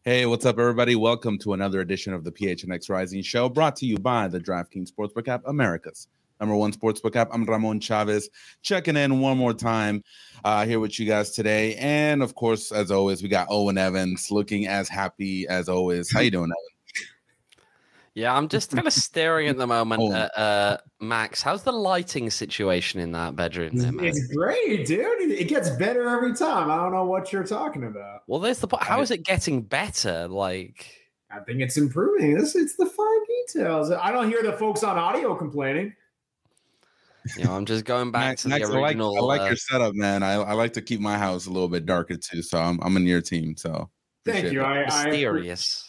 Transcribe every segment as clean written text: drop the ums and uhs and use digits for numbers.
Hey, what's up, everybody? Welcome to another edition of the PHNX Rising Show, brought to you by the DraftKings Sportsbook app, America's #1 sportsbook app. I'm Ramon Chavez, checking in one more time here with you guys today. And, of course, as always, we got Owen Evans looking as happy as always. How you doing, Owen? Yeah, I'm just kind of staring at the moment at Max. How's the lighting situation in that bedroom there, Max? It's great, dude. It gets better every time. I don't know what you're talking about. Well, there's the point. How is it getting better? I think it's improving. It's the fine details. I don't hear the folks on audio complaining. You know, I'm just going back to the original. I like your setup, man. I like to keep my house a little bit darker too, so I'm in your team. So thank you. Mysterious.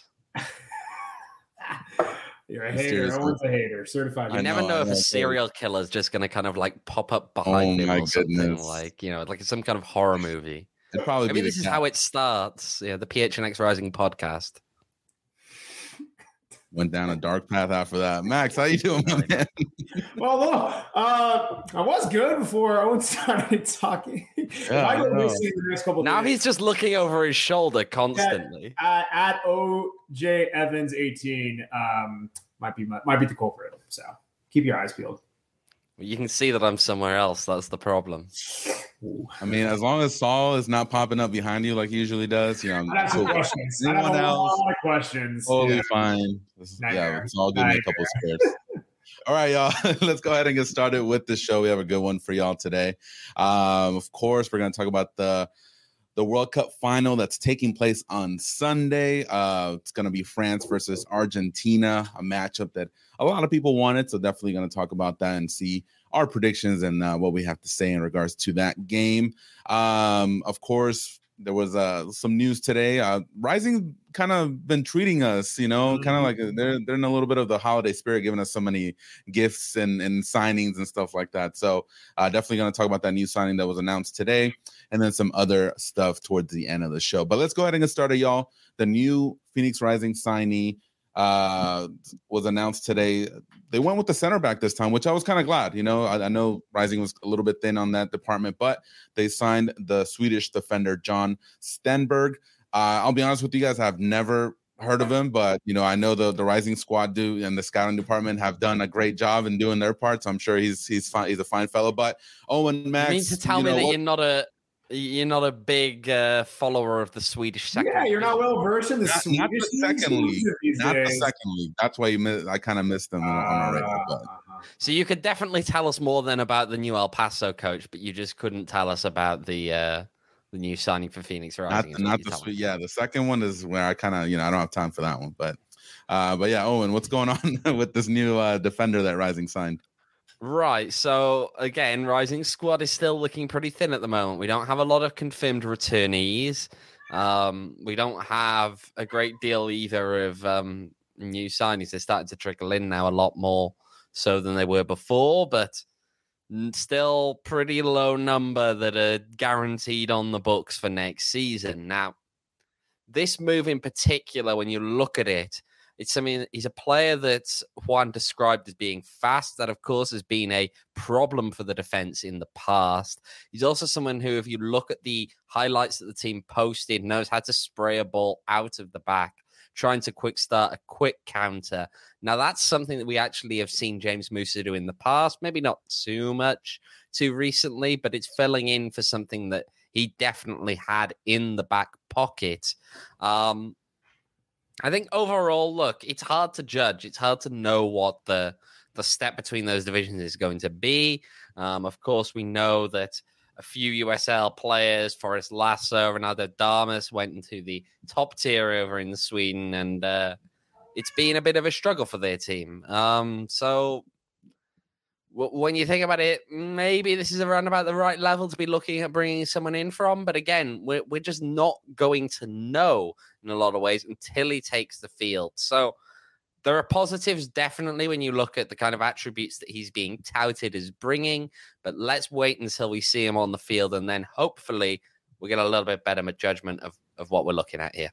You're a hater. Owen's a hater. Certified. You never know if a serial killer is just going to kind of like pop up behind him or something, like some kind of horror movie. It'd probably Maybe this is how it starts. Yeah, the PHNX Rising podcast. Went down a dark path after that. Max, how you doing, my man? Well, look, I was good before Owen started talking. Now he's just looking over his shoulder constantly. At OJ Evans 18 might be the culprit. So keep your eyes peeled. You can see that I'm somewhere else. That's the problem. I mean, as long as Saul is not popping up behind you like he usually does, I have some questions. I have a lot of questions. Totally fine. It's all good. A couple squares. All right, y'all. Let's go ahead and get started with the show. We have a good one for y'all today. Of course, we're going to talk about the World Cup final that's taking place on Sunday. It's going to be France versus Argentina, a matchup that a lot of people wanted. So definitely going to talk about that and see our predictions and what we have to say in regards to that game. Of course, there was some news today. Rising kind of been treating us, kind of like they're in a little bit of the holiday spirit, giving us so many gifts and signings and stuff like that. So definitely going to talk about that new signing that was announced today, and then some other stuff towards the end of the show. But let's go ahead and get started, y'all. The new Phoenix Rising signee was announced today. They went with the center back this time, which I was kind of glad. I know Rising was a little bit thin on that department, but they signed the Swedish defender John Stenberg. I'll be honest with you guys, I've never heard of him, but I know the Rising squad and the scouting department have done a great job in doing their part. So I'm sure he's fine. He's a fine fellow. But Owen, Max, you mean to tell me that you're not a big follower of the Swedish second league? Yeah, you're not well versed in the Swedish not the second league. Not the second league. That's why I kind of missed them on our radar. So you could definitely tell us more than about the new El Paso coach, but you just couldn't tell us about the new signing for Phoenix Rising. The second one is where I kind of I don't have time for that one. But yeah, Owen, what's going on with this new defender that Rising signed? Right. So again, Rising squad is still looking pretty thin at the moment. We don't have a lot of confirmed returnees. We don't have a great deal either of new signings. They're starting to trickle in now a lot more so than they were before, but still pretty low number that are guaranteed on the books for next season. Now, this move in particular, when you look at it, he's a player that Juan described as being fast. That, of course, has been a problem for the defense in the past. He's also someone who, if you look at the highlights that the team posted, knows how to spray a ball out of the back, trying to quick start a quick counter. Now, that's something that we actually have seen James Musa do in the past. Maybe not too recently, but it's filling in for something that he definitely had in the back pocket. I think overall, look, it's hard to judge. It's hard to know what the step between those divisions is going to be. Of course, we know that a few USL players, Forrest Lasso, Ronaldo Damas, went into the top tier over in Sweden, and it's been a bit of a struggle for their team. So when you think about it, maybe this is around about the right level to be looking at bringing someone in from. But again, we're just not going to know in a lot of ways until he takes the field. So there are positives, definitely, when you look at the kind of attributes that he's being touted as bringing. But let's wait until we see him on the field, and then hopefully we get a little bit better judgment of what we're looking at here.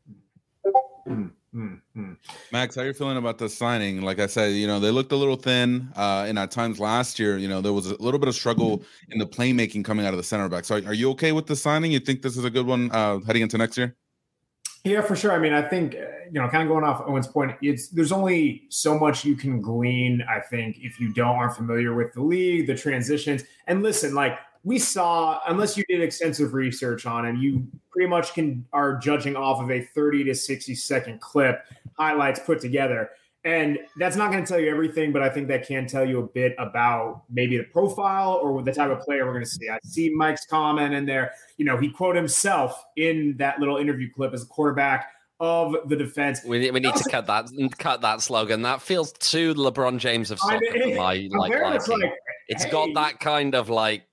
Max, how are you feeling about the signing? Like I said, they looked a little thin, and at times last year, there was a little bit of struggle in the playmaking coming out of the center back. So are you okay with the signing? You think this is a good one heading into next year? Yeah, for sure. I mean, I think, kind of going off Owen's point, there's only so much you can glean, I think, if you aren't familiar with the league, the transitions. And listen, like we saw, unless you did extensive research on him, you pretty much are judging off of a 30 to 60-second clip, highlights put together. And that's not going to tell you everything, but I think that can tell you a bit about maybe the profile or the type of player we're going to see. I see Mike's comment in there. He quoted himself in that little interview clip as a quarterback of the defense. We need to cut that slogan. That feels too LeBron James of soccer for my liking. It's got that kind of like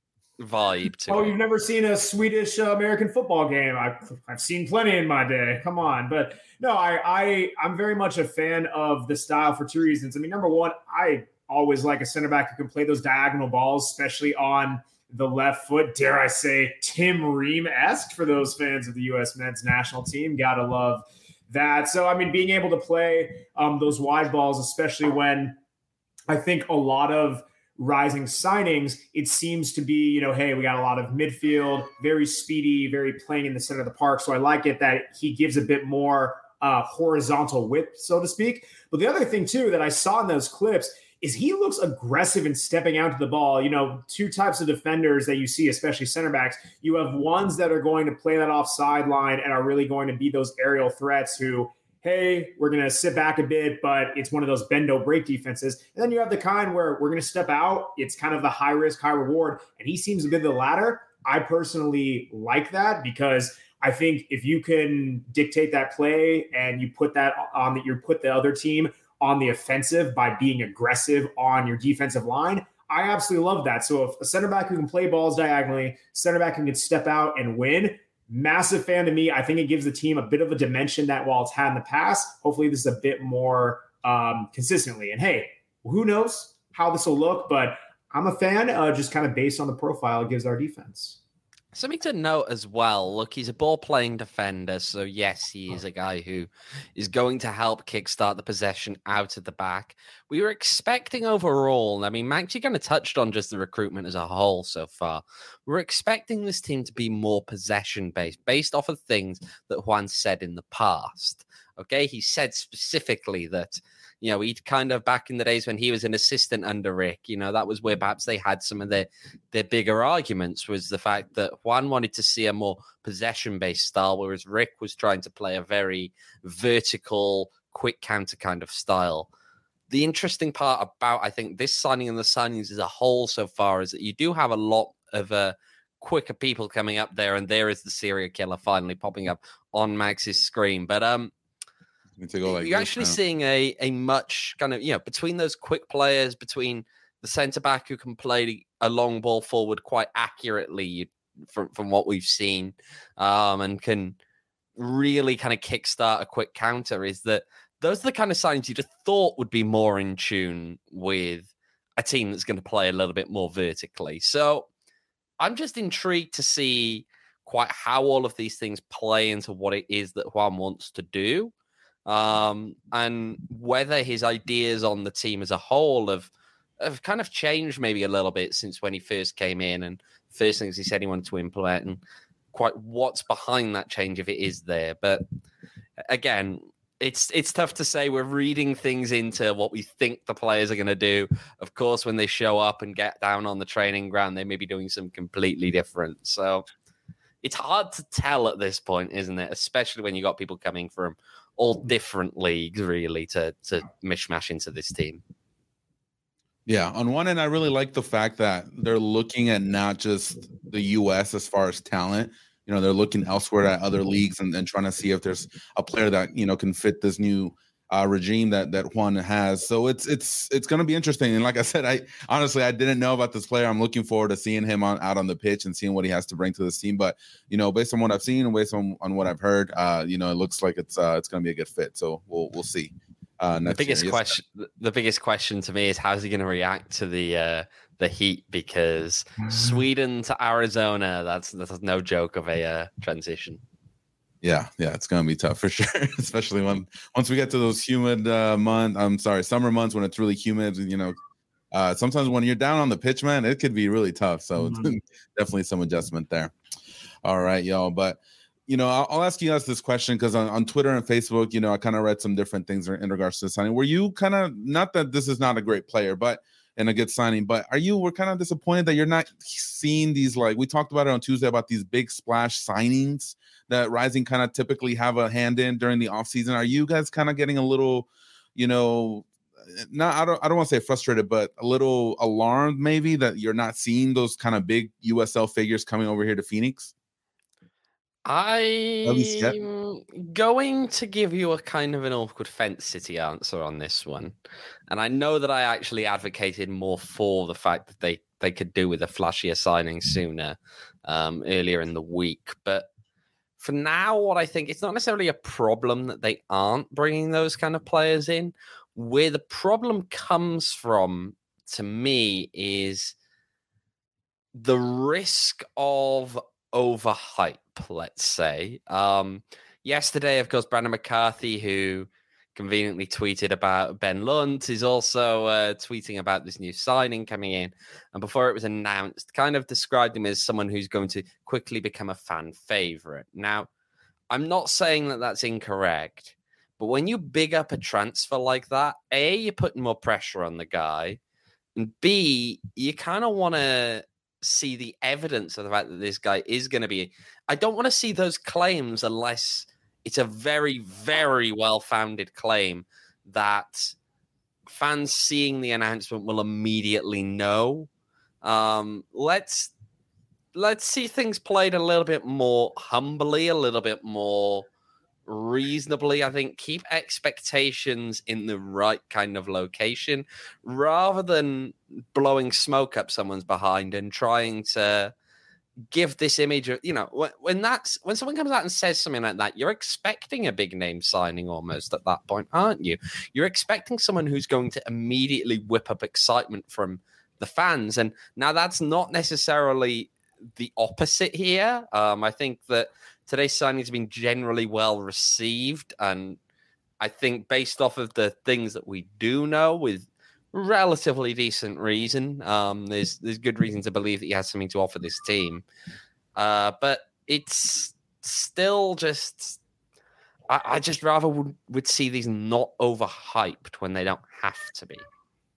vibe to it. You've never seen a Swedish American football game? I've seen plenty in my day. Come on. But no, I'm very much a fan of the style for two reasons. I mean, number one, I always like a center back who can play those diagonal balls, especially on the left foot. Dare I say Tim Ream-esque for those fans of the U.S. men's national team. Gotta love that. So, I mean, being able to play those wide balls, especially when I think a lot of rising signings, it seems to be, hey, we got a lot of midfield, very speedy, very playing in the center of the park. So I like it that he gives a bit more horizontal width, so to speak. But the other thing, too, that I saw in those clips is he looks aggressive in stepping out to the ball. Two types of defenders that you see, especially center backs. You have ones that are going to play that offside line and are really going to be those aerial threats who, hey, we're going to sit back a bit, but it's one of those bend-don't-break defenses. And then you have the kind where we're going to step out. It's kind of the high risk, high reward. And he seems to be the latter. I personally like that because I think if you can dictate that play and you put that on you put the other team on the offensive by being aggressive on your defensive line, I absolutely love that. So if a center back who can play balls diagonally, center back who can step out and win, massive fan to me. I think it gives the team a bit of a dimension that while it's had in the past, hopefully this is a bit more consistently. And hey, who knows how this will look, but I'm a fan just kind of based on the profile it gives our defense. Something to note as well. Look, he's a ball-playing defender, so yes, he is a guy who is going to help kickstart the possession out of the back. We were expecting overall, I mean, Max, you kind of touched on just the recruitment as a whole so far. We're expecting this team to be more possession-based, based off of things that Juan said in the past. Okay, he said specifically that, he'd kind of back in the days when he was an assistant under Rick, that was where perhaps they had some of their bigger arguments, was the fact that Juan wanted to see a more possession-based style, whereas Rick was trying to play a very vertical, quick counter kind of style. The interesting part about, I think, this signing and the signings as a whole so far is that you do have a lot of quicker people coming up there, and there is the serial killer finally popping up on Max's screen. But you're actually seeing a much kind of, between those quick players, between the centre back who can play a long ball forward quite accurately from what we've seen, and can really kind of kickstart a quick counter, is that those are the kind of signings you'd have thought would be more in tune with a team that's going to play a little bit more vertically. So I'm just intrigued to see quite how all of these things play into what it is that Juan wants to do. And whether his ideas on the team as a whole have kind of changed maybe a little bit since when he first came in, and first things he said he wanted to implement, and quite what's behind that change if it is there. But again, it's tough to say. We're reading things into what we think the players are going to do. Of course, when they show up and get down on the training ground, they may be doing something completely different. So it's hard to tell at this point, isn't it? Especially when you got people coming from all different leagues, really, to mishmash into this team. Yeah, on one end, I really like the fact that they're looking at not just the U.S. as far as talent. They're looking elsewhere at other leagues and trying to see if there's a player that can fit this new regime that Juan has. So it's going to be interesting. And like I said, I honestly didn't know about this player. I'm looking forward to seeing him out on the pitch and seeing what he has to bring to this team. But based on what I've seen and based on what I've heard, it looks like it's going to be a good fit. So we'll see. The biggest question to me is, how's he going to react to the heat? Because Sweden to Arizona, that's no joke of a transition. Yeah, it's going to be tough for sure, especially once we get to those humid summer months when it's really humid. Sometimes when you're down on the pitch, man, it could be really tough. So definitely some adjustment there. All right, y'all. But I'll ask you guys this question because on Twitter and Facebook, I kind of read some different things in regards to the signing. Were you kind of, not that this is not a great player, but and a good signing, but we're kind of disappointed that you're not seeing these, like we talked about it on Tuesday, about these big splash signings that Rising kind of typically have a hand in during the offseason? Are you guys kind of getting a little, I don't want to say frustrated, but a little alarmed maybe that you're not seeing those kind of big USL figures coming over here to Phoenix? I'm going to give you a kind of an awkward fence city answer on this one. And I know that I actually advocated more for the fact that they could do with a flashier signing sooner earlier in the week. But for now, what I think, it's not necessarily a problem that they aren't bringing those kind of players in. Where the problem comes from, to me, is the risk of overhype, let's say. Yesterday, of course, Brandon McCarthy, who conveniently tweeted about Ben Lunt, is also tweeting about this new signing coming in. And before it was announced, kind of described him as someone who's going to quickly become a fan favorite. Now, I'm not saying that that's incorrect, but when you big up a transfer like that, A, you're putting more pressure on the guy, and B, you kind of want to see the evidence of the fact that this guy is going to be. I don't want to see those claims unless it's a very, very well-founded claim that fans seeing the announcement will immediately know. Let's see things played a little bit more humbly, a little bit more reasonably. I think keep expectations in the right kind of location rather than blowing smoke up someone's behind and trying to give this image of, when someone comes out and says something like that, you're expecting a big name signing almost at that point, aren't you? You're expecting someone who's going to immediately whip up excitement from the fans. And now that's not necessarily the opposite here. I think that today's signing has been generally well received, and I think based off of the things that we do know with relatively decent reason, there's good reason to believe that he has something to offer this team. But it's still just, I just rather would see these not overhyped when they don't have to be.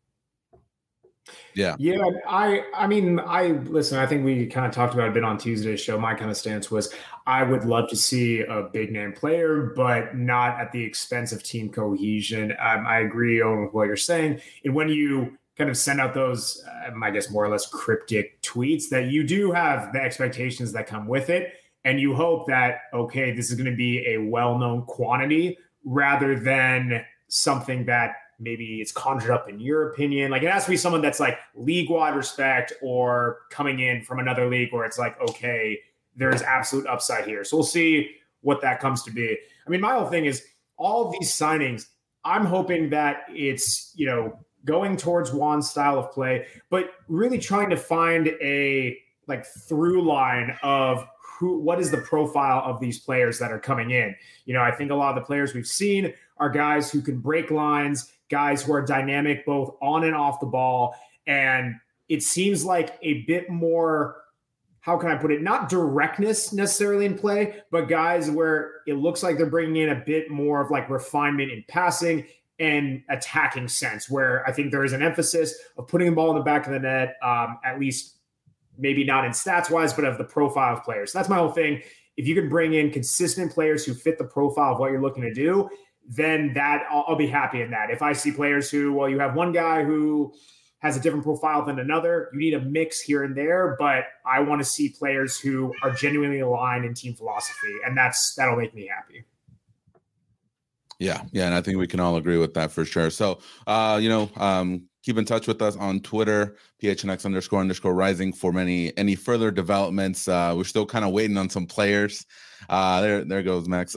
Yeah. I mean, listen, I think we kind of talked about it a bit on Tuesday's show. My kind of stance was I would love to see a big name player, but not at the expense of team cohesion. I agree on what you're saying. And when you kind of send out those, I guess, more or less cryptic tweets, that you do have the expectations that come with it. And you hope that, okay, this is going to be a well-known quantity rather than something that maybe it's conjured up in your opinion. Like, it has to be someone that's like league-wide respect or coming in from another league where it's like, okay, there's absolute upside here. So we'll see what that comes to be. I mean, my whole thing is all of these signings, I'm hoping that it's, going towards Juan's style of play, but really trying to find a through line of what is the profile of these players that are coming in. I think a lot of the players we've seen are guys who can break lines, guys who are dynamic both on and off the ball. And it seems like a bit more, how can I put it, not directness necessarily in play, but guys where it looks like they're bringing in a bit more of like refinement in passing and attacking sense, where I think there is an emphasis of putting the ball in the back of the net, at least maybe not in stats wise, but of the profile of players. So that's my whole thing. If you can bring in consistent players who fit the profile of what you're looking to do, then I'll be happy in that. If I see players who, you have one guy who has a different profile than another, you need a mix here and there, but I want to see players who are genuinely aligned in team philosophy, and that'll make me happy. Yeah, and I think we can all agree with that for sure. So, keep in touch with us on Twitter, PHNX__rising for any further developments. We're still kind of waiting on some players. There goes Max.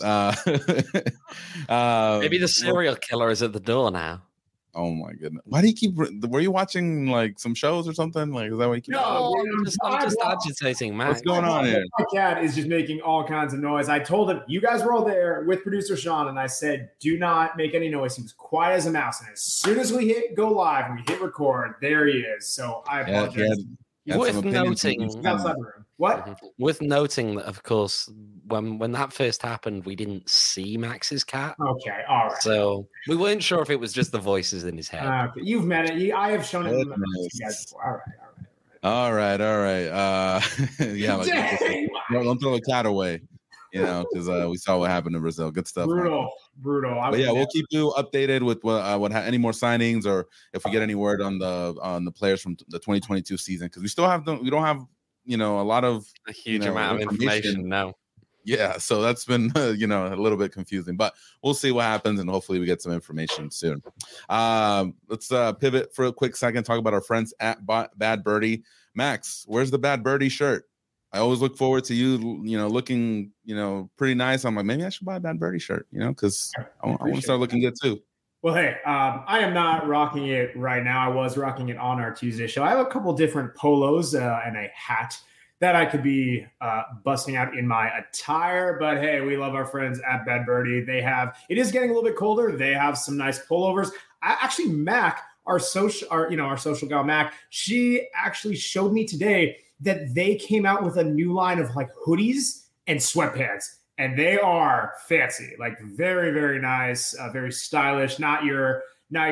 Maybe the serial killer is at the door now. Oh my goodness! Why do you keep? Were you watching like some shows or something? Like, is that what you keep? No, I'm just agitating, man. What's going on here? My cat is just making all kinds of noise. I told him, you guys were all there with producer Sean, and I said, do not make any noise. He was quiet as a mouse. And as soon as we hit go live, we hit record, there he is. So I apologize. Worth noting, What? Worth noting that, of course, when that first happened, we didn't see Max's cat. Okay, all right. So we weren't sure if it was just the voices in his head. Okay. You've met it. I have shown it to you guys before. All right. Yeah, like, don't throw the cat away, because we saw what happened in Brazil. Good stuff. Brutal. But yeah, we'll keep you updated with any more signings, or if we get any word on the players from the 2022 season, because we don't have a lot of a huge amount of information. No. Yeah, so that's been a little bit confusing, but we'll see what happens, and hopefully we get some information soon. Let's pivot for a quick second, talk about our friends at Bad Birdie. Max, where's the Bad Birdie shirt? I always look forward to you, looking, pretty nice. I'm like, maybe I should buy a Bad Birdie shirt, because I want to start looking good too. Well, hey, I am not rocking it right now. I was rocking it on our Tuesday show. I have a couple different polos and a hat that I could be busting out in my attire. But hey, we love our friends at Bad Birdie. It is getting a little bit colder. They have some nice pullovers. Actually, Mac, our social gal Mac, she actually showed me today that they came out with a new line of like hoodies and sweatpants. And they are fancy, like very, very nice, very stylish. Not your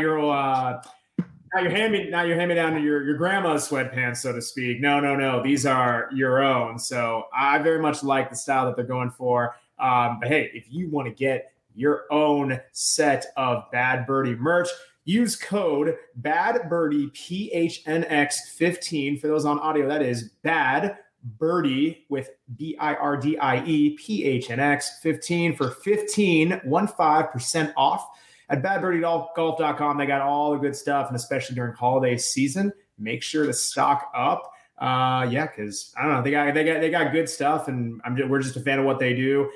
hand-me-down to your grandma's sweatpants, so to speak. No. These are your own. So I very much like the style that they're going for. But hey, if you want to get your own set of Bad Birdie merch, use code BADBIRDIE PHNX15 for those on audio. That is Bad Birdie with BIRDIE PHNX 15 for 15% off at badbirdiegolf.com. They got all the good stuff, and especially during holiday season, make sure to stock up. Because I don't know, they got good stuff, and we're just a fan of what they do.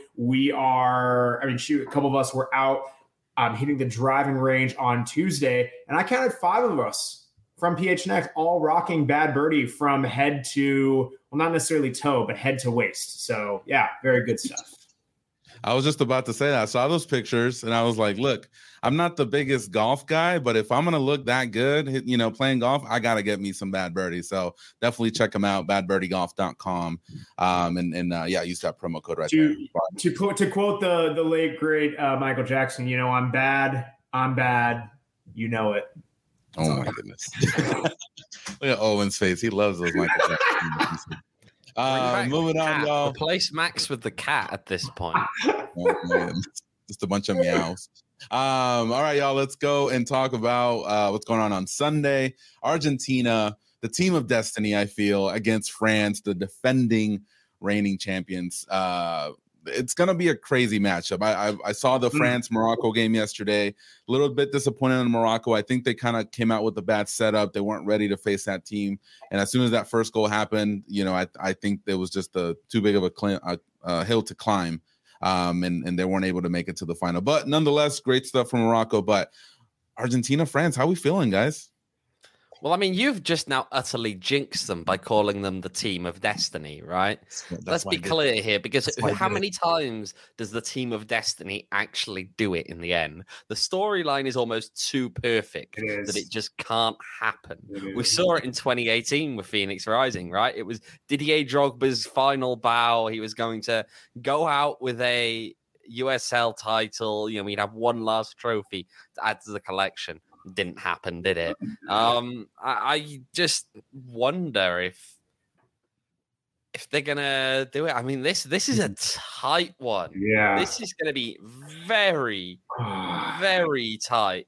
A couple of us were out hitting the driving range on Tuesday, and I counted 5 of us from PHNX all rocking Bad Birdie from head to, well, not necessarily toe, but head to waist. So yeah, very good stuff. I was just about to say that. I saw those pictures and I was like, look, I'm not the biggest golf guy, but if I'm going to look that good, playing golf, I got to get me some Bad Birdie. So definitely check them out, badbirdiegolf.com. Use that promo code right there. To quote the late, great Michael Jackson, I'm bad. You know it. Oh my goodness. Look at Owen's face. He loves those Michael Jackson. Moving on, y'all. Replace Max with the cat at this point. Oh, just a bunch of meows. All right, y'all. Let's go and talk about what's going on Sunday. Argentina, the team of destiny, I feel, against France, the defending reigning champions. It's going to be a crazy matchup. I saw the France-Morocco game yesterday. A little bit disappointed in Morocco. I think they kind of came out with a bad setup. They weren't ready to face that team. And as soon as that first goal happened, I think there was just too big of a hill to climb. And they weren't able to make it to the final. But nonetheless, great stuff from Morocco. But Argentina, France, how are we feeling, guys? Well, I mean, you've just now utterly jinxed them by calling them the team of destiny, right? Let's be clear here, because how many times does the team of destiny actually do it in the end? The storyline is almost too perfect that it just can't happen. We saw it in 2018 with Phoenix Rising, right? It was Didier Drogba's final bow. He was going to go out with a USL title. We'd have one last trophy to add to the collection. Didn't happen, did it? I just wonder if they're gonna do it. I mean, this is a tight one. Yeah, this is gonna be very, very tight.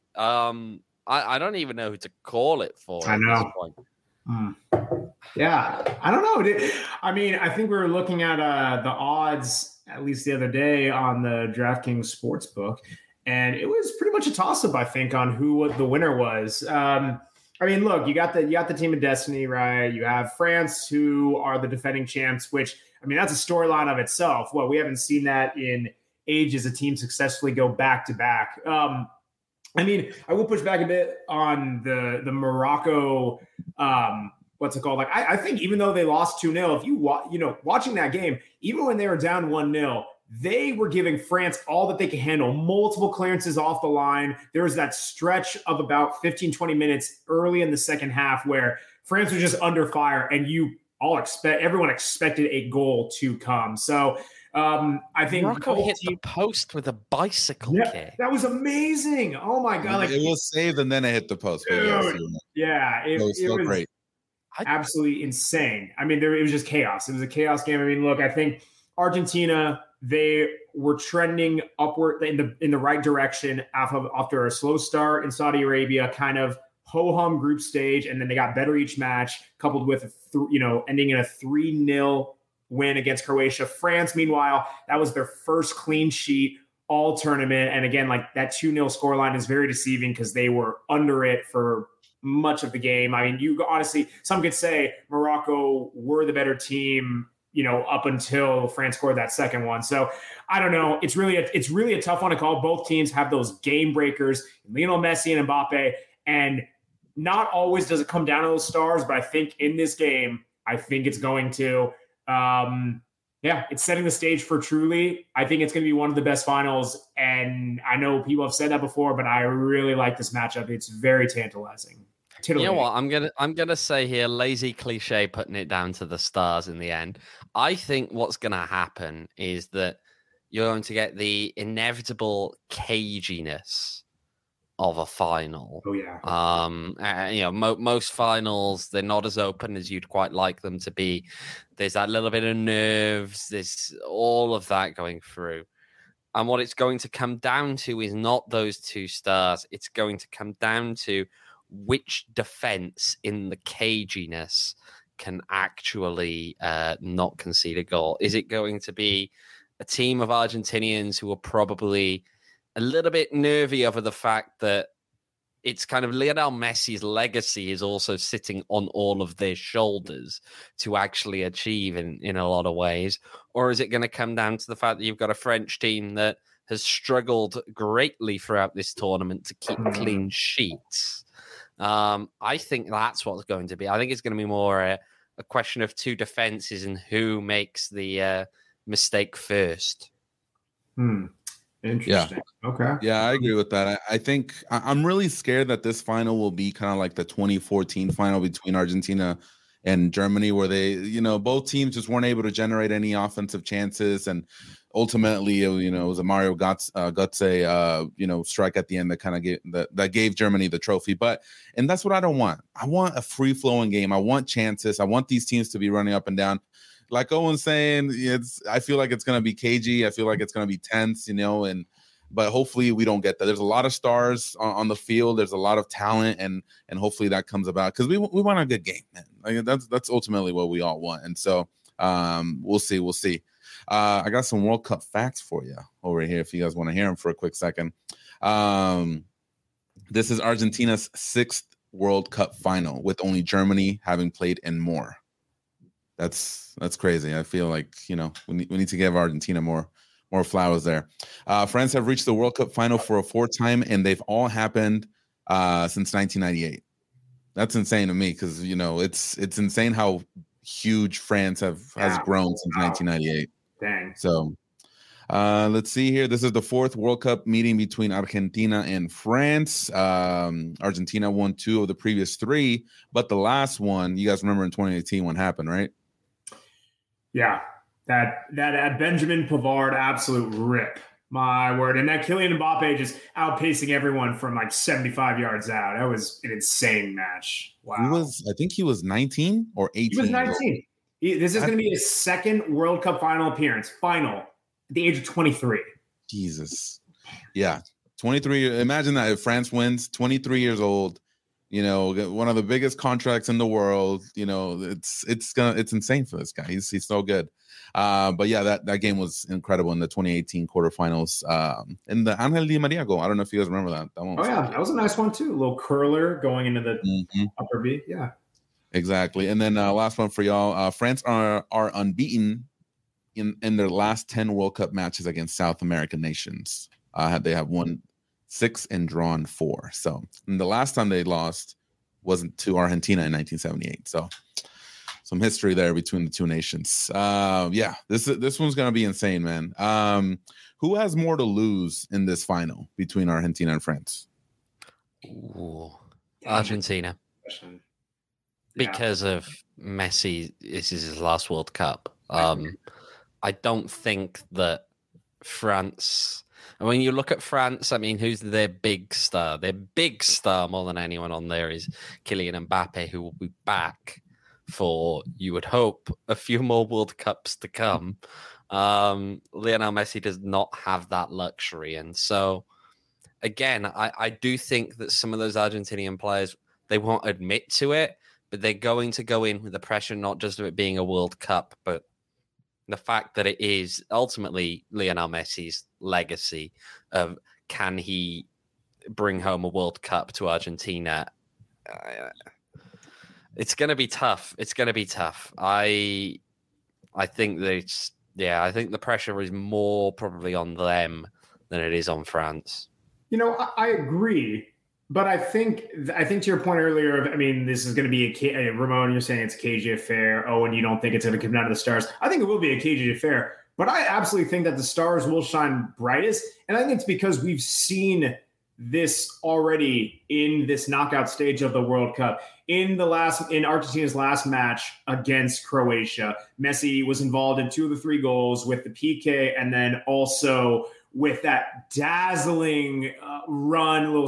I don't even know who to call it for. I know. At this point. Yeah, I don't know. I mean, I think we were looking at the odds at least the other day on the DraftKings Sportsbook. And it was pretty much a toss-up, I think, on who the winner was. I mean, look, you got the team of destiny, right? You have France, who are the defending champs, which, I mean, that's a storyline of itself. Well, we haven't seen that in ages, a team successfully go back-to-back. I mean, I will push back a bit on the Morocco, what's it called? Like, I think even though they lost 2-0, if you watching that game, even when they were down 1-0, they were giving France all that they could handle, multiple clearances off the line. There was that stretch of about 15, 20 minutes early in the second half where France was just under fire, and you everyone expected a goal to come. So I think Morocco hit the post with a bicycle kick. That was amazing. Oh my God. Like, it was saved and then it hit the post. Dude, it was so great. Absolutely insane. I mean, it was just chaos. It was a chaos game. I mean, look, I think Argentina, they were trending upward in the right direction after a slow start in Saudi Arabia, kind of ho-hum group stage, and then they got better each match, coupled with ending in a 3-0 win against Croatia. France, meanwhile, that was their first clean sheet all tournament, and again, like that 2-0 scoreline is very deceiving because they were under it for much of the game. I mean, you honestly, some could say Morocco were the better team, up until France scored that second one. So I don't know. It's really a tough one to call. Both teams have those game breakers, Lionel Messi and Mbappe, and not always does it come down to those stars, but I think in this game, I think it's going to. It's setting the stage for truly. I think it's going to be one of the best finals, and I know people have said that before, but I really like this matchup. It's very tantalizing. You know what? I'm gonna say here, lazy cliche, putting it down to the stars in the end. I think what's gonna happen is that you're going to get the inevitable caginess of a final. Oh yeah. Most finals, they're not as open as you'd quite like them to be. There's that little bit of nerves. There's all of that going through. And what it's going to come down to is not those two stars. It's going to come down to which defense in the caginess can actually not concede a goal. Is it going to be a team of Argentinians who are probably a little bit nervy over the fact that it's kind of Lionel Messi's legacy is also sitting on all of their shoulders to actually achieve in a lot of ways? Or is it going to come down to the fact that you've got a French team that has struggled greatly throughout this tournament to keep clean sheets? I think that's what's going to be. I think it's going to be more a question of two defenses and who makes the mistake first. Interesting. Yeah. Okay. Yeah, I agree with that. I think I'm really scared that this final will be kind of like the 2014 final between Argentina and Germany, where they, both teams just weren't able to generate any offensive chances, and ultimately, it was a Mario Götze, strike at the end that kind of that gave Germany the trophy. And that's what I don't want. I want a free flowing game. I want chances. I want these teams to be running up and down. Like Owen's saying, I feel like it's going to be cagey. I feel like it's going to be tense, but hopefully we don't get that. There's a lot of stars on the field. There's a lot of talent, and hopefully that comes about because we want a good game, man. Like, that's ultimately what we all want. And so we'll see. I got some World Cup facts for you over here if you guys want to hear them for a quick second. This is Argentina's 6th World Cup final, with only Germany having played in more. That's crazy. I feel like, we need to give Argentina more flowers there. France have reached the World Cup final for a 4th time, and they've all happened since 1998. That's insane to me because, it's insane how huge France has grown since 1998. Dang. So let's see here. This is the 4th World Cup meeting between Argentina and France. Argentina won 2 of the previous 3, but the last one, you guys remember in 2018 what happened, right? Yeah, that Benjamin Pavard absolute rip. My word. And that Kylian Mbappe just outpacing everyone from like 75 yards out. That was an insane match. Wow. I think he was 19 or 18. He was 19. This is going to be his 2nd World Cup final appearance. Final at the age of 23. Jesus. Yeah. 23. Imagine that if France wins, 23 years old, one of the biggest contracts in the world, it's insane for this guy. He's so good. But yeah, that game was incredible in the 2018 quarterfinals. In the Angel Di Maria goal. I don't know if you guys remember that. That was a nice one too. A little curler going into the upper V. Yeah. Exactly. And then last one for y'all. France are unbeaten in their last 10 World Cup matches against South American nations. They have won 6 and drawn 4. So the last time they lost wasn't to Argentina in 1978. So some history there between the two nations. This one's gonna be insane, man. Who has more to lose in this final between Argentina and France? Ooh, Argentina. because of Messi. This is his last World Cup. I don't think that France. And when you look at France, I mean, who's their big star? Their big star more than anyone on there is Kylian Mbappe, who will be back for, you would hope, a few more World Cups to come. Lionel Messi does not have that luxury. And so, again, I do think that some of those Argentinian players, they won't admit to it, but they're going to go in with the pressure, not just of it being a World Cup, but the fact that it is ultimately Lionel Messi's legacy of, can he bring home a World Cup to Argentina? It's going to be tough. It's going to be tough. I think that I think the pressure is more probably on them than it is on France. I agree. But I think to your point earlier of, I mean, this is going to be Ramon, you're saying it's a cagey affair. Oh, and you don't think it's going to come down to the stars. I think it will be a cagey affair, but I absolutely think that the stars will shine brightest. And I think it's because we've seen this already in this knockout stage of the World Cup. In Argentina's last match against Croatia, Messi was involved in 2 of the 3 goals with the PK, and then also with that dazzling run, little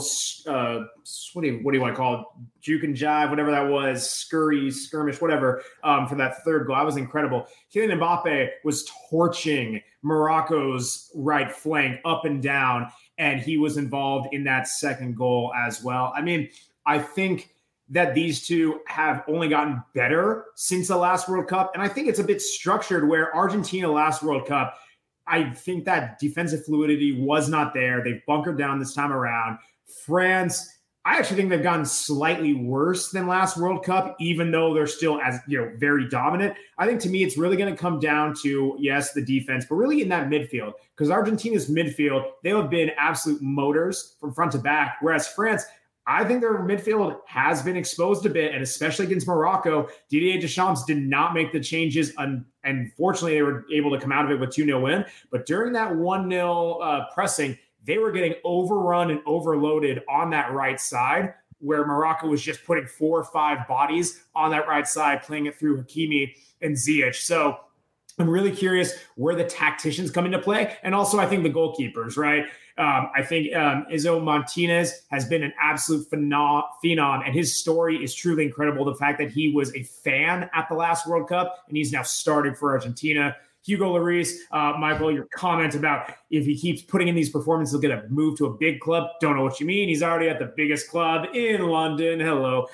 what do you want to call it? Juke and jive, whatever that was, skirmish, whatever, for that 3rd goal. That was incredible. Kylian Mbappe was torching Morocco's right flank up and down, and he was involved in that 2nd goal as well. I mean, I think that these two have only gotten better since the last World Cup, and I think it's a bit structured where Argentina last World Cup, I think that defensive fluidity was not there. They've bunkered down this time around. France, I actually think they've gotten slightly worse than last World Cup, even though they're still very dominant. I think to me, it's really going to come down to, yes, the defense, but really in that midfield, because Argentina's midfield, they have been absolute motors from front to back, whereas France, I think their midfield has been exposed a bit, and especially against Morocco, Didier Deschamps did not make the changes, and fortunately, they were able to come out of it with 2-0 win. But during that 1-0 pressing, they were getting overrun and overloaded on that right side, where Morocco was just putting 4 or 5 bodies on that right side, playing it through Hakimi and Ziyech. So I'm really curious where the tacticians come into play, and also I think the goalkeepers, right? I think Izzo Martinez has been an absolute phenom, and his story is truly incredible. The fact that he was a fan at the last World Cup, and he's now starting for Argentina. Hugo Lloris, Michael, your comment about if he keeps putting in these performances, he'll get a move to a big club. Don't know what you mean. He's already at the biggest club in London. Hello.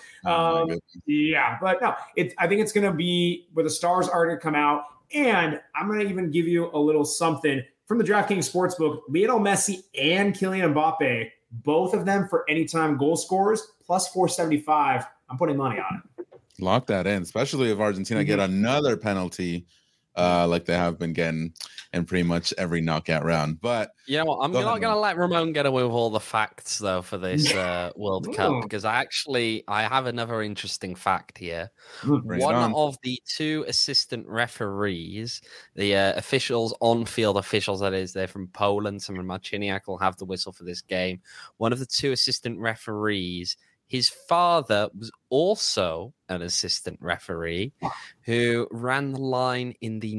Yeah, but no, I think it's going to be where the stars are going to come out. And I'm going to even give you a little something from the DraftKings Sportsbook. Lionel Messi and Kylian Mbappe, both of them for anytime goal scorers, plus 475. I'm putting money on it. Lock that in, especially if Argentina get another penalty like they have been getting in pretty much every knockout round. But you know what? I'm not going to let Ramon get away with all the facts, though, for this World Cup, because I have another interesting fact here. One of the 2 assistant referees, the officials, on-field officials, that is, they're from Poland. Some of Marciniak will have the whistle for this game. One of the 2 assistant referees, his father was also an assistant referee who ran the line in the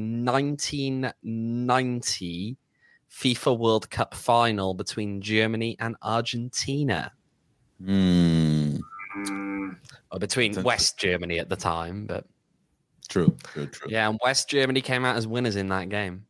1990 FIFA World Cup final between Germany and Argentina. Or between West Germany at the time, but true. Yeah, and West Germany came out as winners in that game.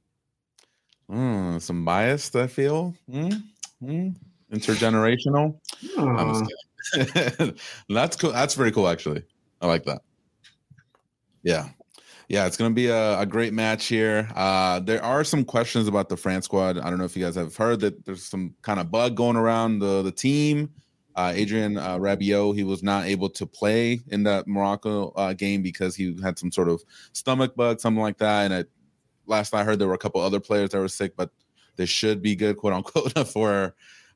Some bias, I feel. Intergenerational. I'm just kidding. That's cool. That's very cool, actually. I like that. Yeah, it's going to be a great match here. There are some questions about the France squad. I don't know if you guys have heard that there's some kind of bug going around the team. Adrien Rabiot, he was not able to play in that Morocco game because he had some sort of stomach bug, something like that. And last I heard, there were a couple other players that were sick, but they should be good, quote unquote, for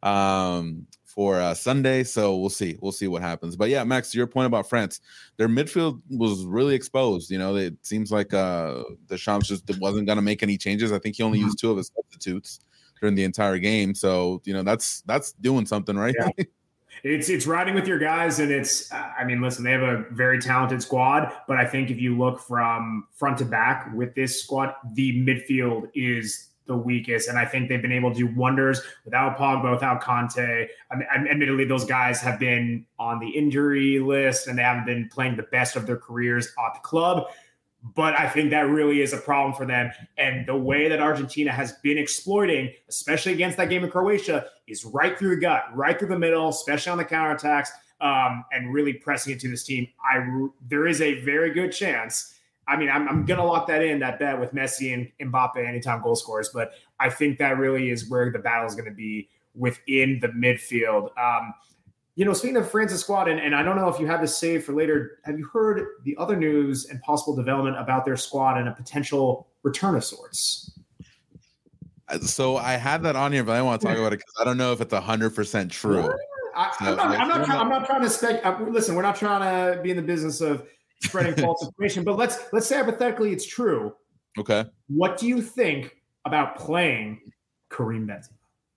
Sunday. So we'll see what happens. But yeah, Max, to your point about France, their midfield was really exposed. You know, it seems like Deschamps just wasn't going to make any changes. I think he only used 2 of his substitutes during the entire game. So, you know, that's doing something, right? Yeah. It's riding with your guys, and I mean, listen, they have a very talented squad, but I think if you look from front to back with this squad, the midfield is the weakest, and I think they've been able to do wonders without Pogba, without Conte. I mean, admittedly, those guys have been on the injury list, and they haven't been playing the best of their careers at the club. But I think that really is a problem for them. And the way that Argentina has been exploiting, especially against that game in Croatia, is right through the gut, right through the middle, especially on the counterattacks, and really pressing into this team. There is a very good chance. I mean, I'm going to lock that bet with Messi and Mbappe anytime goal scores. But I think that really is where the battle is going to be within the midfield. Speaking of France's squad, and I don't know if you have this saved for later, have you heard the other news and possible development about their squad and a potential return of sorts? So I had that on here, but I don't want to talk about it because I don't know if it's 100% true. I'm not trying to speculate. Listen, we're not trying to be in the business of spreading false information, but let's say hypothetically it's true. Okay. What do you think about playing Karim Benzema?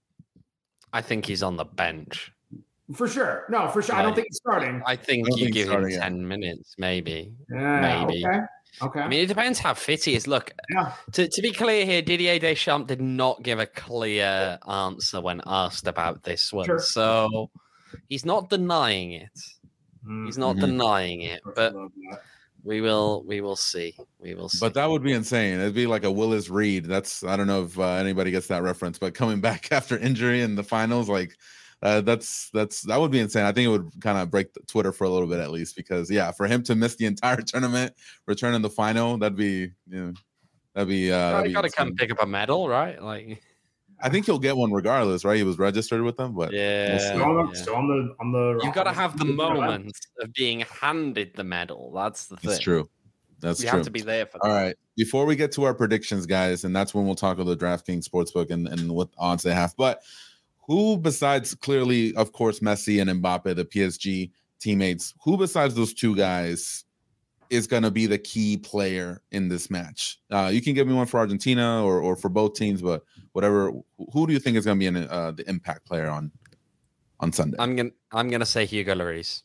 I think he's on the bench. For sure. No, for sure. I don't think he's starting. I think you give him 10 minutes, maybe. Maybe. Okay. I mean, it depends how fit he is. Look, to be clear here, Didier Deschamps did not give a clear answer when asked about this one. Sure. So he's not denying it. He's not denying it. But we will see. But that would be insane. It'd be like a Willis Reed. I don't know if anybody gets that reference, but coming back after injury in the finals, like, that would be insane. I think it would kind of break Twitter for a little bit at least, because for him to miss the entire tournament, return in the final, that'd be got to come pick up a medal, right? Like, I think he'll get one regardless, right? He was registered with them, but still on the. You've got to have the moment of being handed the medal. That's the thing. It's true. You have to be there for that. All right. Before we get to our predictions, guys, and that's when we'll talk about the DraftKings Sportsbook and what odds they have, but. Who besides clearly, of course, Messi and Mbappe, the PSG teammates, who besides those two guys is going to be the key player in this match? You can give me one for Argentina or for both teams, but whatever. Who do you think is going to be the impact player on Sunday? I'm gonna say Hugo Lloris.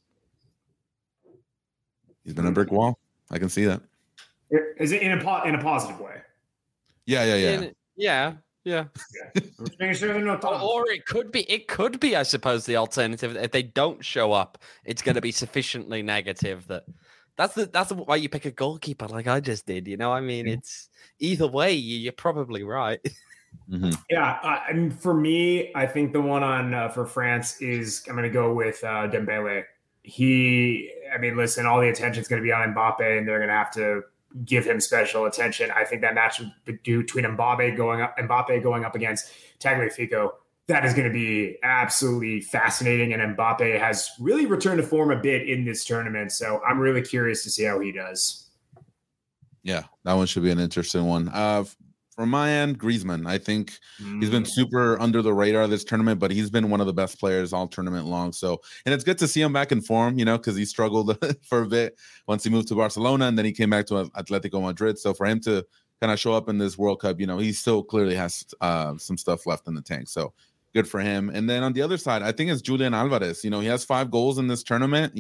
He's been a brick wall. I can see that. Is it in a positive way? Yeah. Or it could be, I suppose, the alternative. If they don't show up, it's going to be sufficiently negative that's why you pick a goalkeeper like I just did. I mean, it's either way, you're probably right. Mm-hmm. Yeah, and for me, I think the one on for France is I'm going to go with Dembele. Listen, all the attention's going to be on Mbappe, and they're going to have to give him special attention. I think that match between Mbappe going up against Tagliafico, that is going to be absolutely fascinating. And Mbappe has really returned to form a bit in this tournament. So I'm really curious to see how he does. Yeah, that one should be an interesting one. From my end, Griezmann. I think he's been super under the radar this tournament, but he's been one of the best players all tournament long. So, and it's good to see him back in form, because he struggled for a bit once he moved to Barcelona, and then he came back to Atletico Madrid. So for him to kind of show up in this World Cup, he still clearly has some stuff left in the tank. So good for him. And then on the other side, I think it's Julian Alvarez. He has 5 goals in this tournament.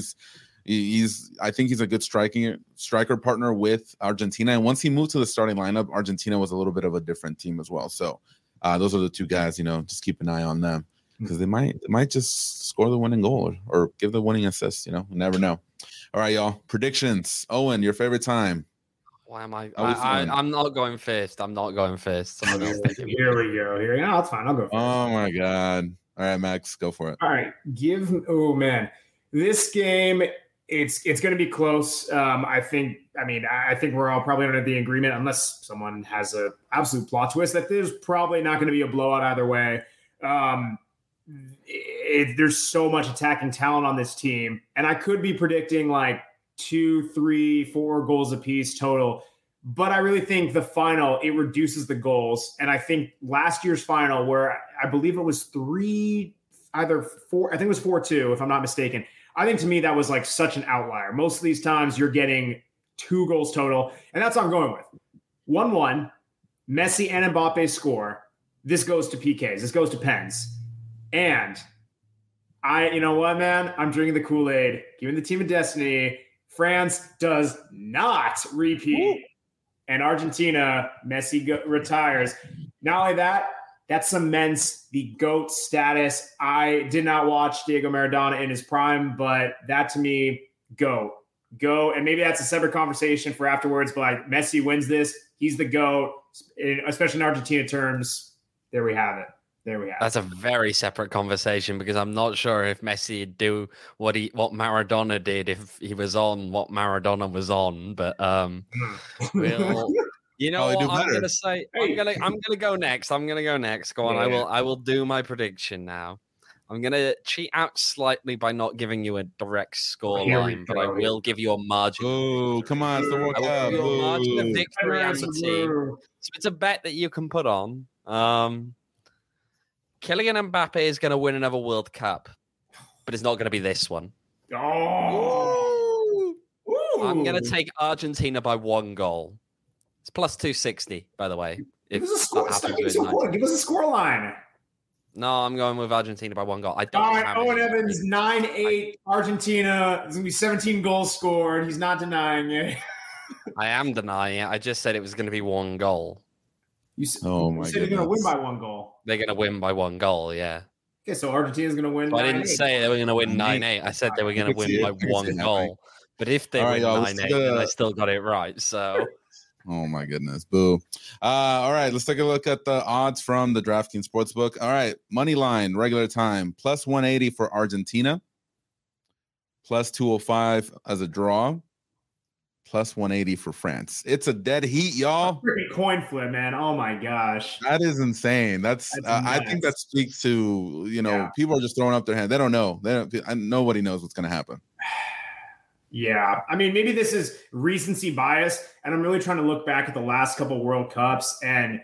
I think he's a good striker partner with Argentina. And once he moved to the starting lineup, Argentina was a little bit of a different team as well. So those are the two guys, just keep an eye on them because they might just score the winning goal or give the winning assist. You never know. All right, y'all. Predictions. Owen, your favorite time. Why am I'm not going first. Someone else. Here we go. Yeah, that's fine. I'll go first. Oh my God. All right, Max, go for it. All right. This game, it's going to be close. I think we're all probably under the agreement, unless someone has an absolute plot twist, that there's probably not going to be a blowout either way. There's so much attacking talent on this team, and I could be predicting like 2, 3, 4 goals apiece total. But I really think the final, it reduces the goals. And I think last year's final, where I believe it was 3, either 4, I think it was 4-2, if I'm not mistaken. I think to me that was like such an outlier. Most of these times you're getting 2 goals total, and that's what I'm going with. 1-1, Messi and Mbappe score. This goes to PKs. This goes to pens. And You know what, man? I'm drinking the Kool-Aid. Giving the team of destiny. France does not repeat. Ooh. And Argentina, Messi retires. Not only that, that cements the GOAT status. I did not watch Diego Maradona in his prime, but that to me, GOAT. And maybe that's a separate conversation for afterwards, but like Messi wins this. He's the GOAT, especially in Argentina terms. There we have it. That's a very separate conversation because I'm not sure if Messi would do what Maradona did if he was on what Maradona was on. But you know what I'm gonna say? I'm gonna go next. Go on. Yeah. I will do my prediction now. I'm gonna cheat out slightly by not giving you a direct score line, but I will give you a margin. Oh, come on, it's the World Cup. I will give you a margin of victory as a team. So it's a bet that you can put on. Kylian Mbappe is going to win another World Cup, but it's not going to be this one. Oh. I'm going to take Argentina by 1 goal. It's plus 260, by the way. Give us a score. Give us a score line. No, I'm going with Argentina by 1 goal. I don't. All right, Owen Evans, 9-8 Argentina. There's going to be 17 goals scored. He's not denying it. I am denying it. I just said it was going to be 1 goal. You said they're going to win by 1 goal. They're going to win by 1 goal, yeah. Okay, so Argentina's going to win. So I didn't say they were going to win 9-8. I said they were going to win by 1 goal. But if they win 9-8, then I still got it right. So. Oh my goodness, boo! All right, let's take a look at the odds from the DraftKings Sportsbook. All right, money line, regular time, plus 180 for Argentina, plus 205 as a draw. Plus 180 for France. It's a dead heat, y'all. Freaking coin flip, man. Oh my gosh. That is insane. That's I think that speaks to, people are just throwing up their hand. They don't know. Nobody knows what's going to happen. Yeah. I mean, maybe this is recency bias, and I'm really trying to look back at the last couple of World Cups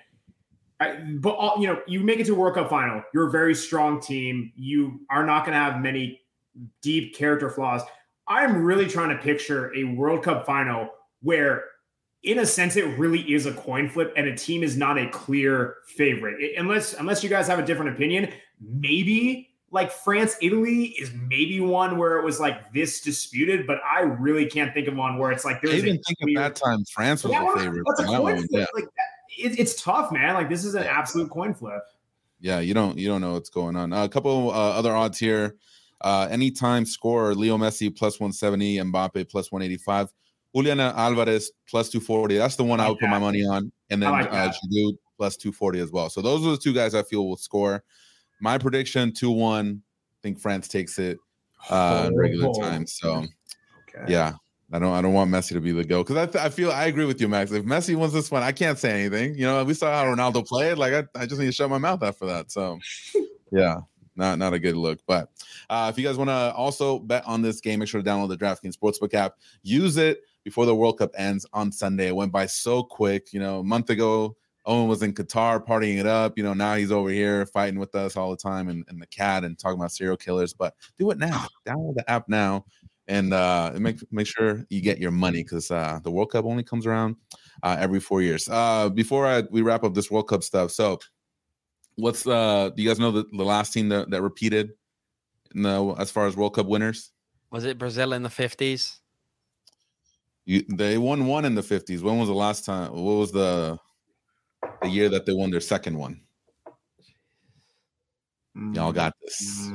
you make it to a World Cup final. You're a very strong team. You are not going to have many deep character flaws. I'm really trying to picture a World Cup final where, in a sense, it really is a coin flip and a team is not a clear favorite. Unless you guys have a different opinion, maybe like France, Italy is maybe one where it was like this disputed, but I really can't think of one where it's like there's. I even think at that time France was the favorite. That's a coin flip. Yeah. Like it's tough, man. Like this is an absolute coin flip. Yeah, you don't know what's going on. A couple other odds here. Anytime scorer, Leo Messi plus 170, Mbappe plus 185, Julian Alvarez plus 240. That's the one I would put my money on. And then Giroud plus 240 as well. So those are the 2 guys I feel will score. My prediction 2-1. I think France takes it in regular time. So yeah, I don't want Messi to be the GOAT because I agree with you, Max. If Messi wins this one, I can't say anything. We saw how Ronaldo played. Like I just need to shut my mouth after that. So yeah. Not a good look, but if you guys want to also bet on this game, make sure to download the DraftKings Sportsbook app. Use it before the World Cup ends on Sunday. It went by so quick. A month ago, Owen was in Qatar partying it up. Now he's over here fighting with us all the time and the cat and talking about serial killers. But do it now. Download the app now and make sure you get your money because the World Cup only comes around every 4 years. Before we wrap up this World Cup stuff, so. What's do you guys know the last team that repeated as far as World Cup winners? Was it Brazil in the 50s? They won one in the 50s. When was the last time? What was the year that they won their second one? Y'all got this.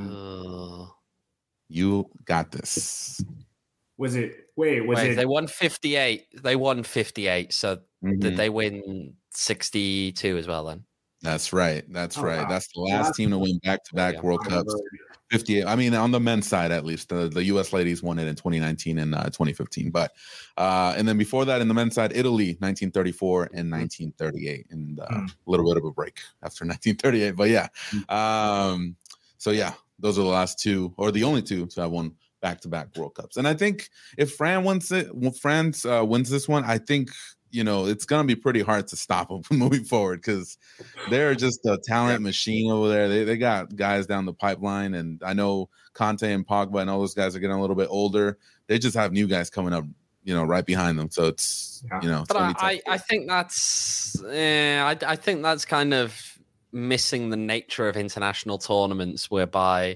You got this. Was it? Wait, it? They won 58. They won 58. So did they win 62 as well then? That's right. Wow. That's the last team to win back-to-back World Cups. 58. I mean, on the men's side, at least, the U.S. ladies won it in 2019 and 2015. But and then before that, in the men's side, Italy, 1934 and 1938, and a little bit of a break after 1938. But yeah, so yeah, those are the last 2, or the only 2 to have won back-to-back World Cups. And I think if France wins this one, I think. It's going to be pretty hard to stop them from moving forward because they're just a talent machine over there. They got guys down the pipeline, and I know Conte and Pogba and all those guys are getting a little bit older. They just have new guys coming up, right behind them. So it's, it's but I think that's I think that's kind of missing the nature of international tournaments whereby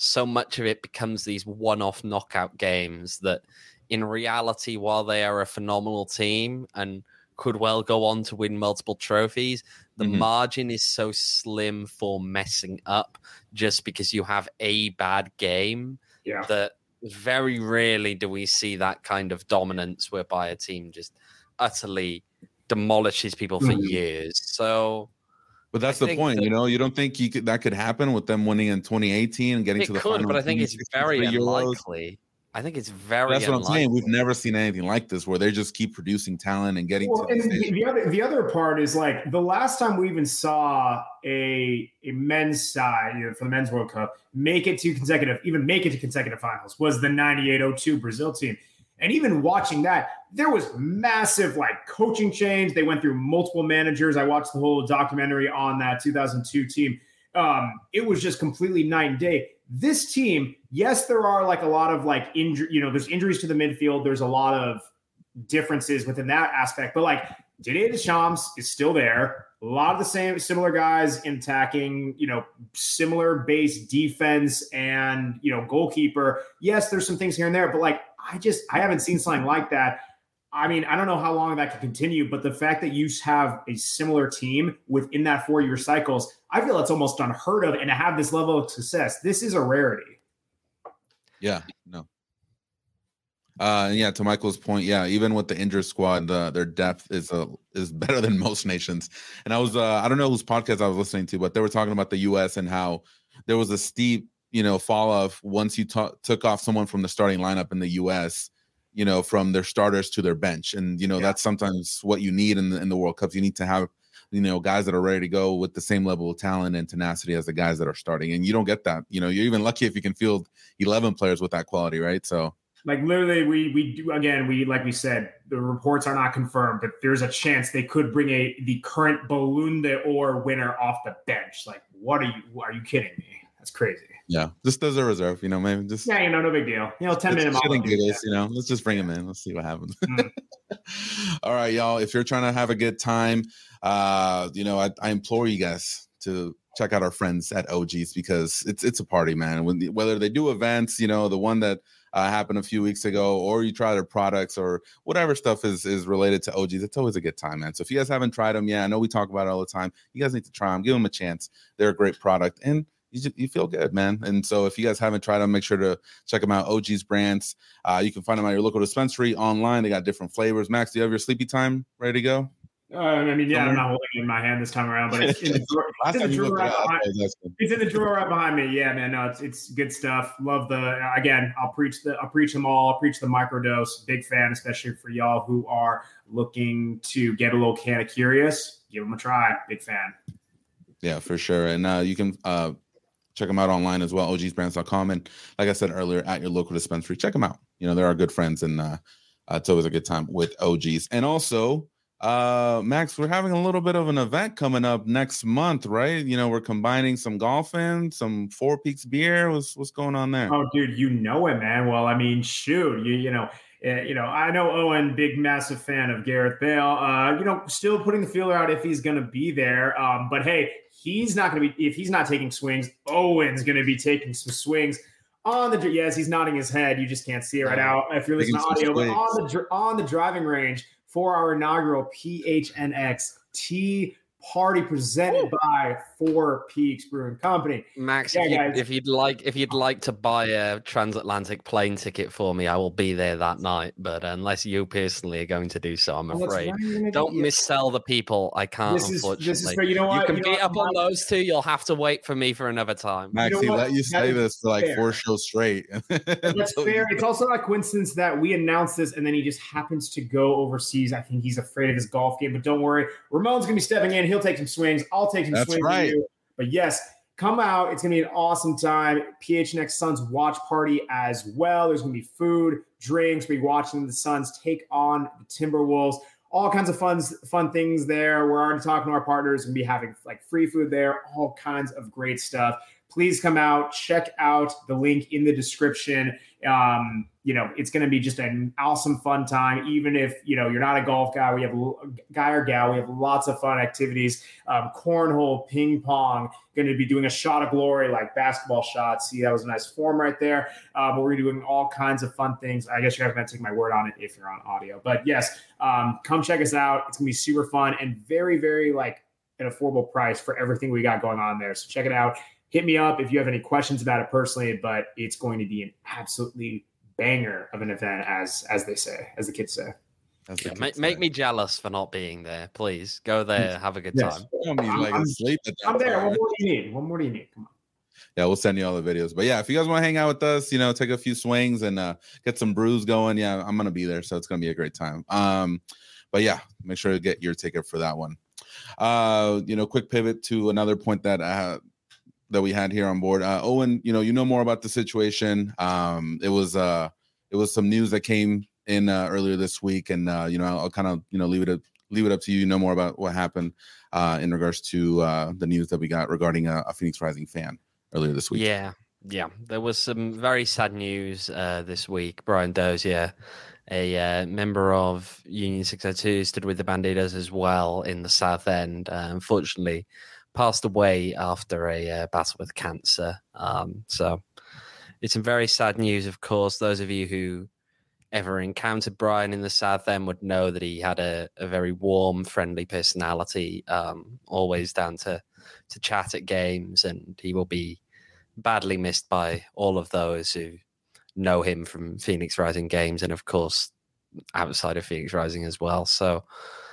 so much of it becomes these one-off knockout games that in reality, while they are a phenomenal team and could well go on to win multiple trophies, the margin is so slim for messing up just because you have a bad game that very rarely do we see that kind of dominance whereby a team just utterly demolishes people for years. So, but that's the point, you know. You don't think that could happen with them winning in 2018 and getting to the final? But I think it's very unlikely. I think it's very. That's what I'm saying. We've never seen anything like this, where they just keep producing talent and getting to the stage. The other part is like the last time we even saw a men's side, you know, for the Men's World Cup make it to consecutive finals was the 98-02 Brazil team. And even watching that, there was massive like coaching change. They went through multiple managers. I watched the whole documentary on that 2002 team. It was just completely night and day. This team, yes, there are like a lot of like injury, you know, there's injuries to the midfield. There's a lot of differences within that aspect, but like Didier Deschamps is still there. A lot of the similar guys in attacking, you know, similar base defense and, you know, goalkeeper. Yes, there's some things here and there, but like, I haven't seen something like that. I mean, I don't know how long that can continue, but the fact that you have a similar team within that 4-year cycles, I feel it's almost unheard of. And to have this level of success, this is a rarity. Yeah, no. To Michael's point, even with the injured squad, their depth is better than most nations. And I was, I don't know whose podcast I was listening to, but they were talking about the U.S. and how there was a steep, you know, fall off once you took off someone from the starting lineup in the U.S., you know, from their starters to their bench. And, you know, that's sometimes what you need in the World Cups. You need to have, you know, guys that are ready to go with the same level of talent and tenacity as the guys that are starting. And you don't get that. You know, you're even lucky if you can field 11 players with that quality, right? So, like, literally, we do, again, like we said, the reports are not confirmed, but there's a chance they could bring the current Ballon d'Or winner off the bench. Like, are you kidding me? That's crazy. Yeah, just as a reserve, you know, maybe just. Yeah, you know, no big deal. You know, 10-minute. You know, let's just bring him in. Let's see what happens. All right, y'all. If you're trying to have a good time, you know, I implore you guys to check out our friends at OGs because it's a party, man. Whether they do events, you know, the one that happened a few weeks ago, or you try their products or whatever stuff is related to OGs, it's always a good time, man. So if you guys haven't tried them, I know we talk about it all the time. You guys need to try them. Give them a chance. They're a great product, and you feel good, man. And so if you guys haven't tried them, make sure to check them out. OG's brands. You can find them at your local dispensary, online. They got different flavors. Max, do you have your sleepy time ready to go? I mean, I'm not holding it in my hand this time around, but it's in the drawer. It's in the drawer right behind me. Yeah, man. No, it's good stuff. Love I'll preach them all. I'll preach the microdose. Big fan, especially for y'all who are looking to get a little kind of curious. Give them a try. Big fan. Yeah, for sure. And you can check them out online as well, ogsbrands.com. And like I said earlier, at your local dispensary, check them out. You know, they're our good friends, and it's always a good time with OGs. And also, Max, we're having a little bit of an event coming up next month, right? You know, we're combining some golfing, some Four Peaks beer. What's going on there? Oh, dude, you know it, man. Well, I mean, shoot, you know, I know Owen, big, massive fan of Gareth Bale. You know, still putting the feeler out if he's going to be there. But hey, he's not going to be, if he's not taking swings, Owen's going to be taking some swings yes, he's nodding his head. You just can't see it right now if you're listening to audio, but on the driving range for our inaugural PHNX Tea party presented by Four Peaks Brewing Company. Max, if you'd like to buy a transatlantic plane ticket for me, I will be there that night. But unless you personally are going to do so, I'm afraid. Don't missell the people. I can't, unfortunately. This is fair. You know what? You can beat up on those two. You'll have to wait for me for another time. Max, he let you say this for like 4 shows straight. That's fair. It's also not a coincidence that we announced this and then he just happens to go overseas. I think he's afraid of his golf game, but don't worry. Ramon's going to be stepping in. He'll take some swings. I'll take some swings. Right. You. But yes, come out. It's going to be an awesome time. PHNX Suns watch party as well. There's going to be food, drinks. We'll be watching the Suns take on the Timberwolves. All kinds of fun things there. We're already talking to our partners and be having like free food there. All kinds of great stuff. please come out, check out the link in the description. It's going to be just an awesome, fun time. Even if, you're not a golf guy, we have lots of fun activities. Cornhole, ping pong, going to be doing a shot of glory, like basketball shots. See, that was a nice form right there. But we're doing all kinds of fun things. I guess you guys are going to take my word on it if you're on audio, but yes, come check us out. It's going to be super fun and very, very an affordable price for everything we got going on there. So check it out. Hit me up if you have any questions about it personally, but it's going to be an absolutely banger of an event, as they say, as the kids say. Make me jealous for not being there. Please go there, have a good time. I'm there. What more do you need? Come on. Yeah, we'll send you all the videos. But yeah, if you guys want to hang out with us, take a few swings and get some brews going. Yeah, I'm gonna be there, so it's gonna be a great time. But yeah, make sure to get your ticket for that one. Quick pivot to another point that we had here on board. Owen, you know more about the situation. It was some news that came in earlier this week, and I'll kind of leave it up to you. You know more about what happened in regards to the news that we got regarding a Phoenix Rising fan earlier this week. Yeah. There was some very sad news this week. Brian Dozier, a member of Union 602, stood with the Bandidos as well in the South End. Unfortunately, passed away after a battle with cancer. So it's some very sad news, of course. Those of you who ever encountered Brian in the South End would know that he had a very warm, friendly personality, always down to chat at games, and he will be badly missed by all of those who know him from Phoenix Rising games and, of course, outside of Phoenix Rising as well. So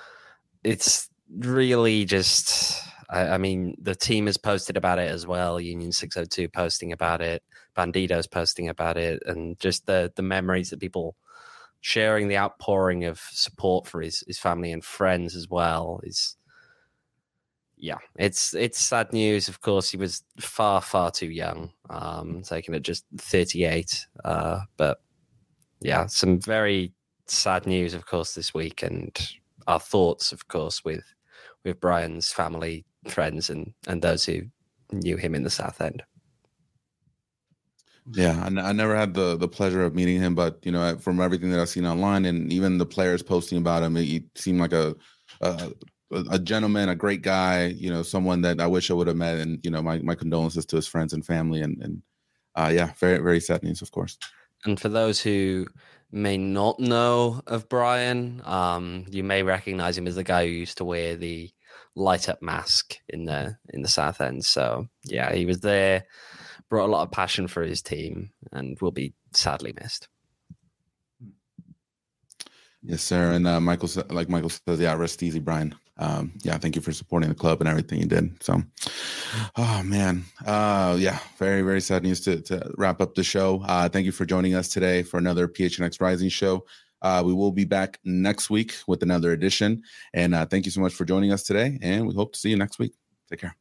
it's really just... I mean, the team has posted about it as well. Union 602 posting about it, Bandidos posting about it, and just the memories that people sharing, the outpouring of support for his family and friends as well is, it's sad news. Of course, he was far, far too young, taken at just 38. But yeah, some very sad news, of course, this week, and our thoughts, of course, with Brian's family, friends, and those who knew him in the South End. Yeah, I never had the pleasure of meeting him, but from everything that I've seen online and even the players posting about him, he seemed like a gentleman, a great guy, someone that I wish I would have met. And my condolences to his friends and family, and very, very sad news, of course. And for those who may not know of Brian, you may recognize him as the guy who used to wear the light up mask in the South End. So yeah, he was there, brought a lot of passion for his team, and will be sadly missed. Yes, sir. And Michael says, rest easy, Brian. Thank you for supporting the club and everything you did. So, oh man, very, very sad news to wrap up the show. Thank you for joining us today for another PHNX Rising show. We will be back next week with another edition. And thank you so much for joining us today. And we hope to see you next week. Take care.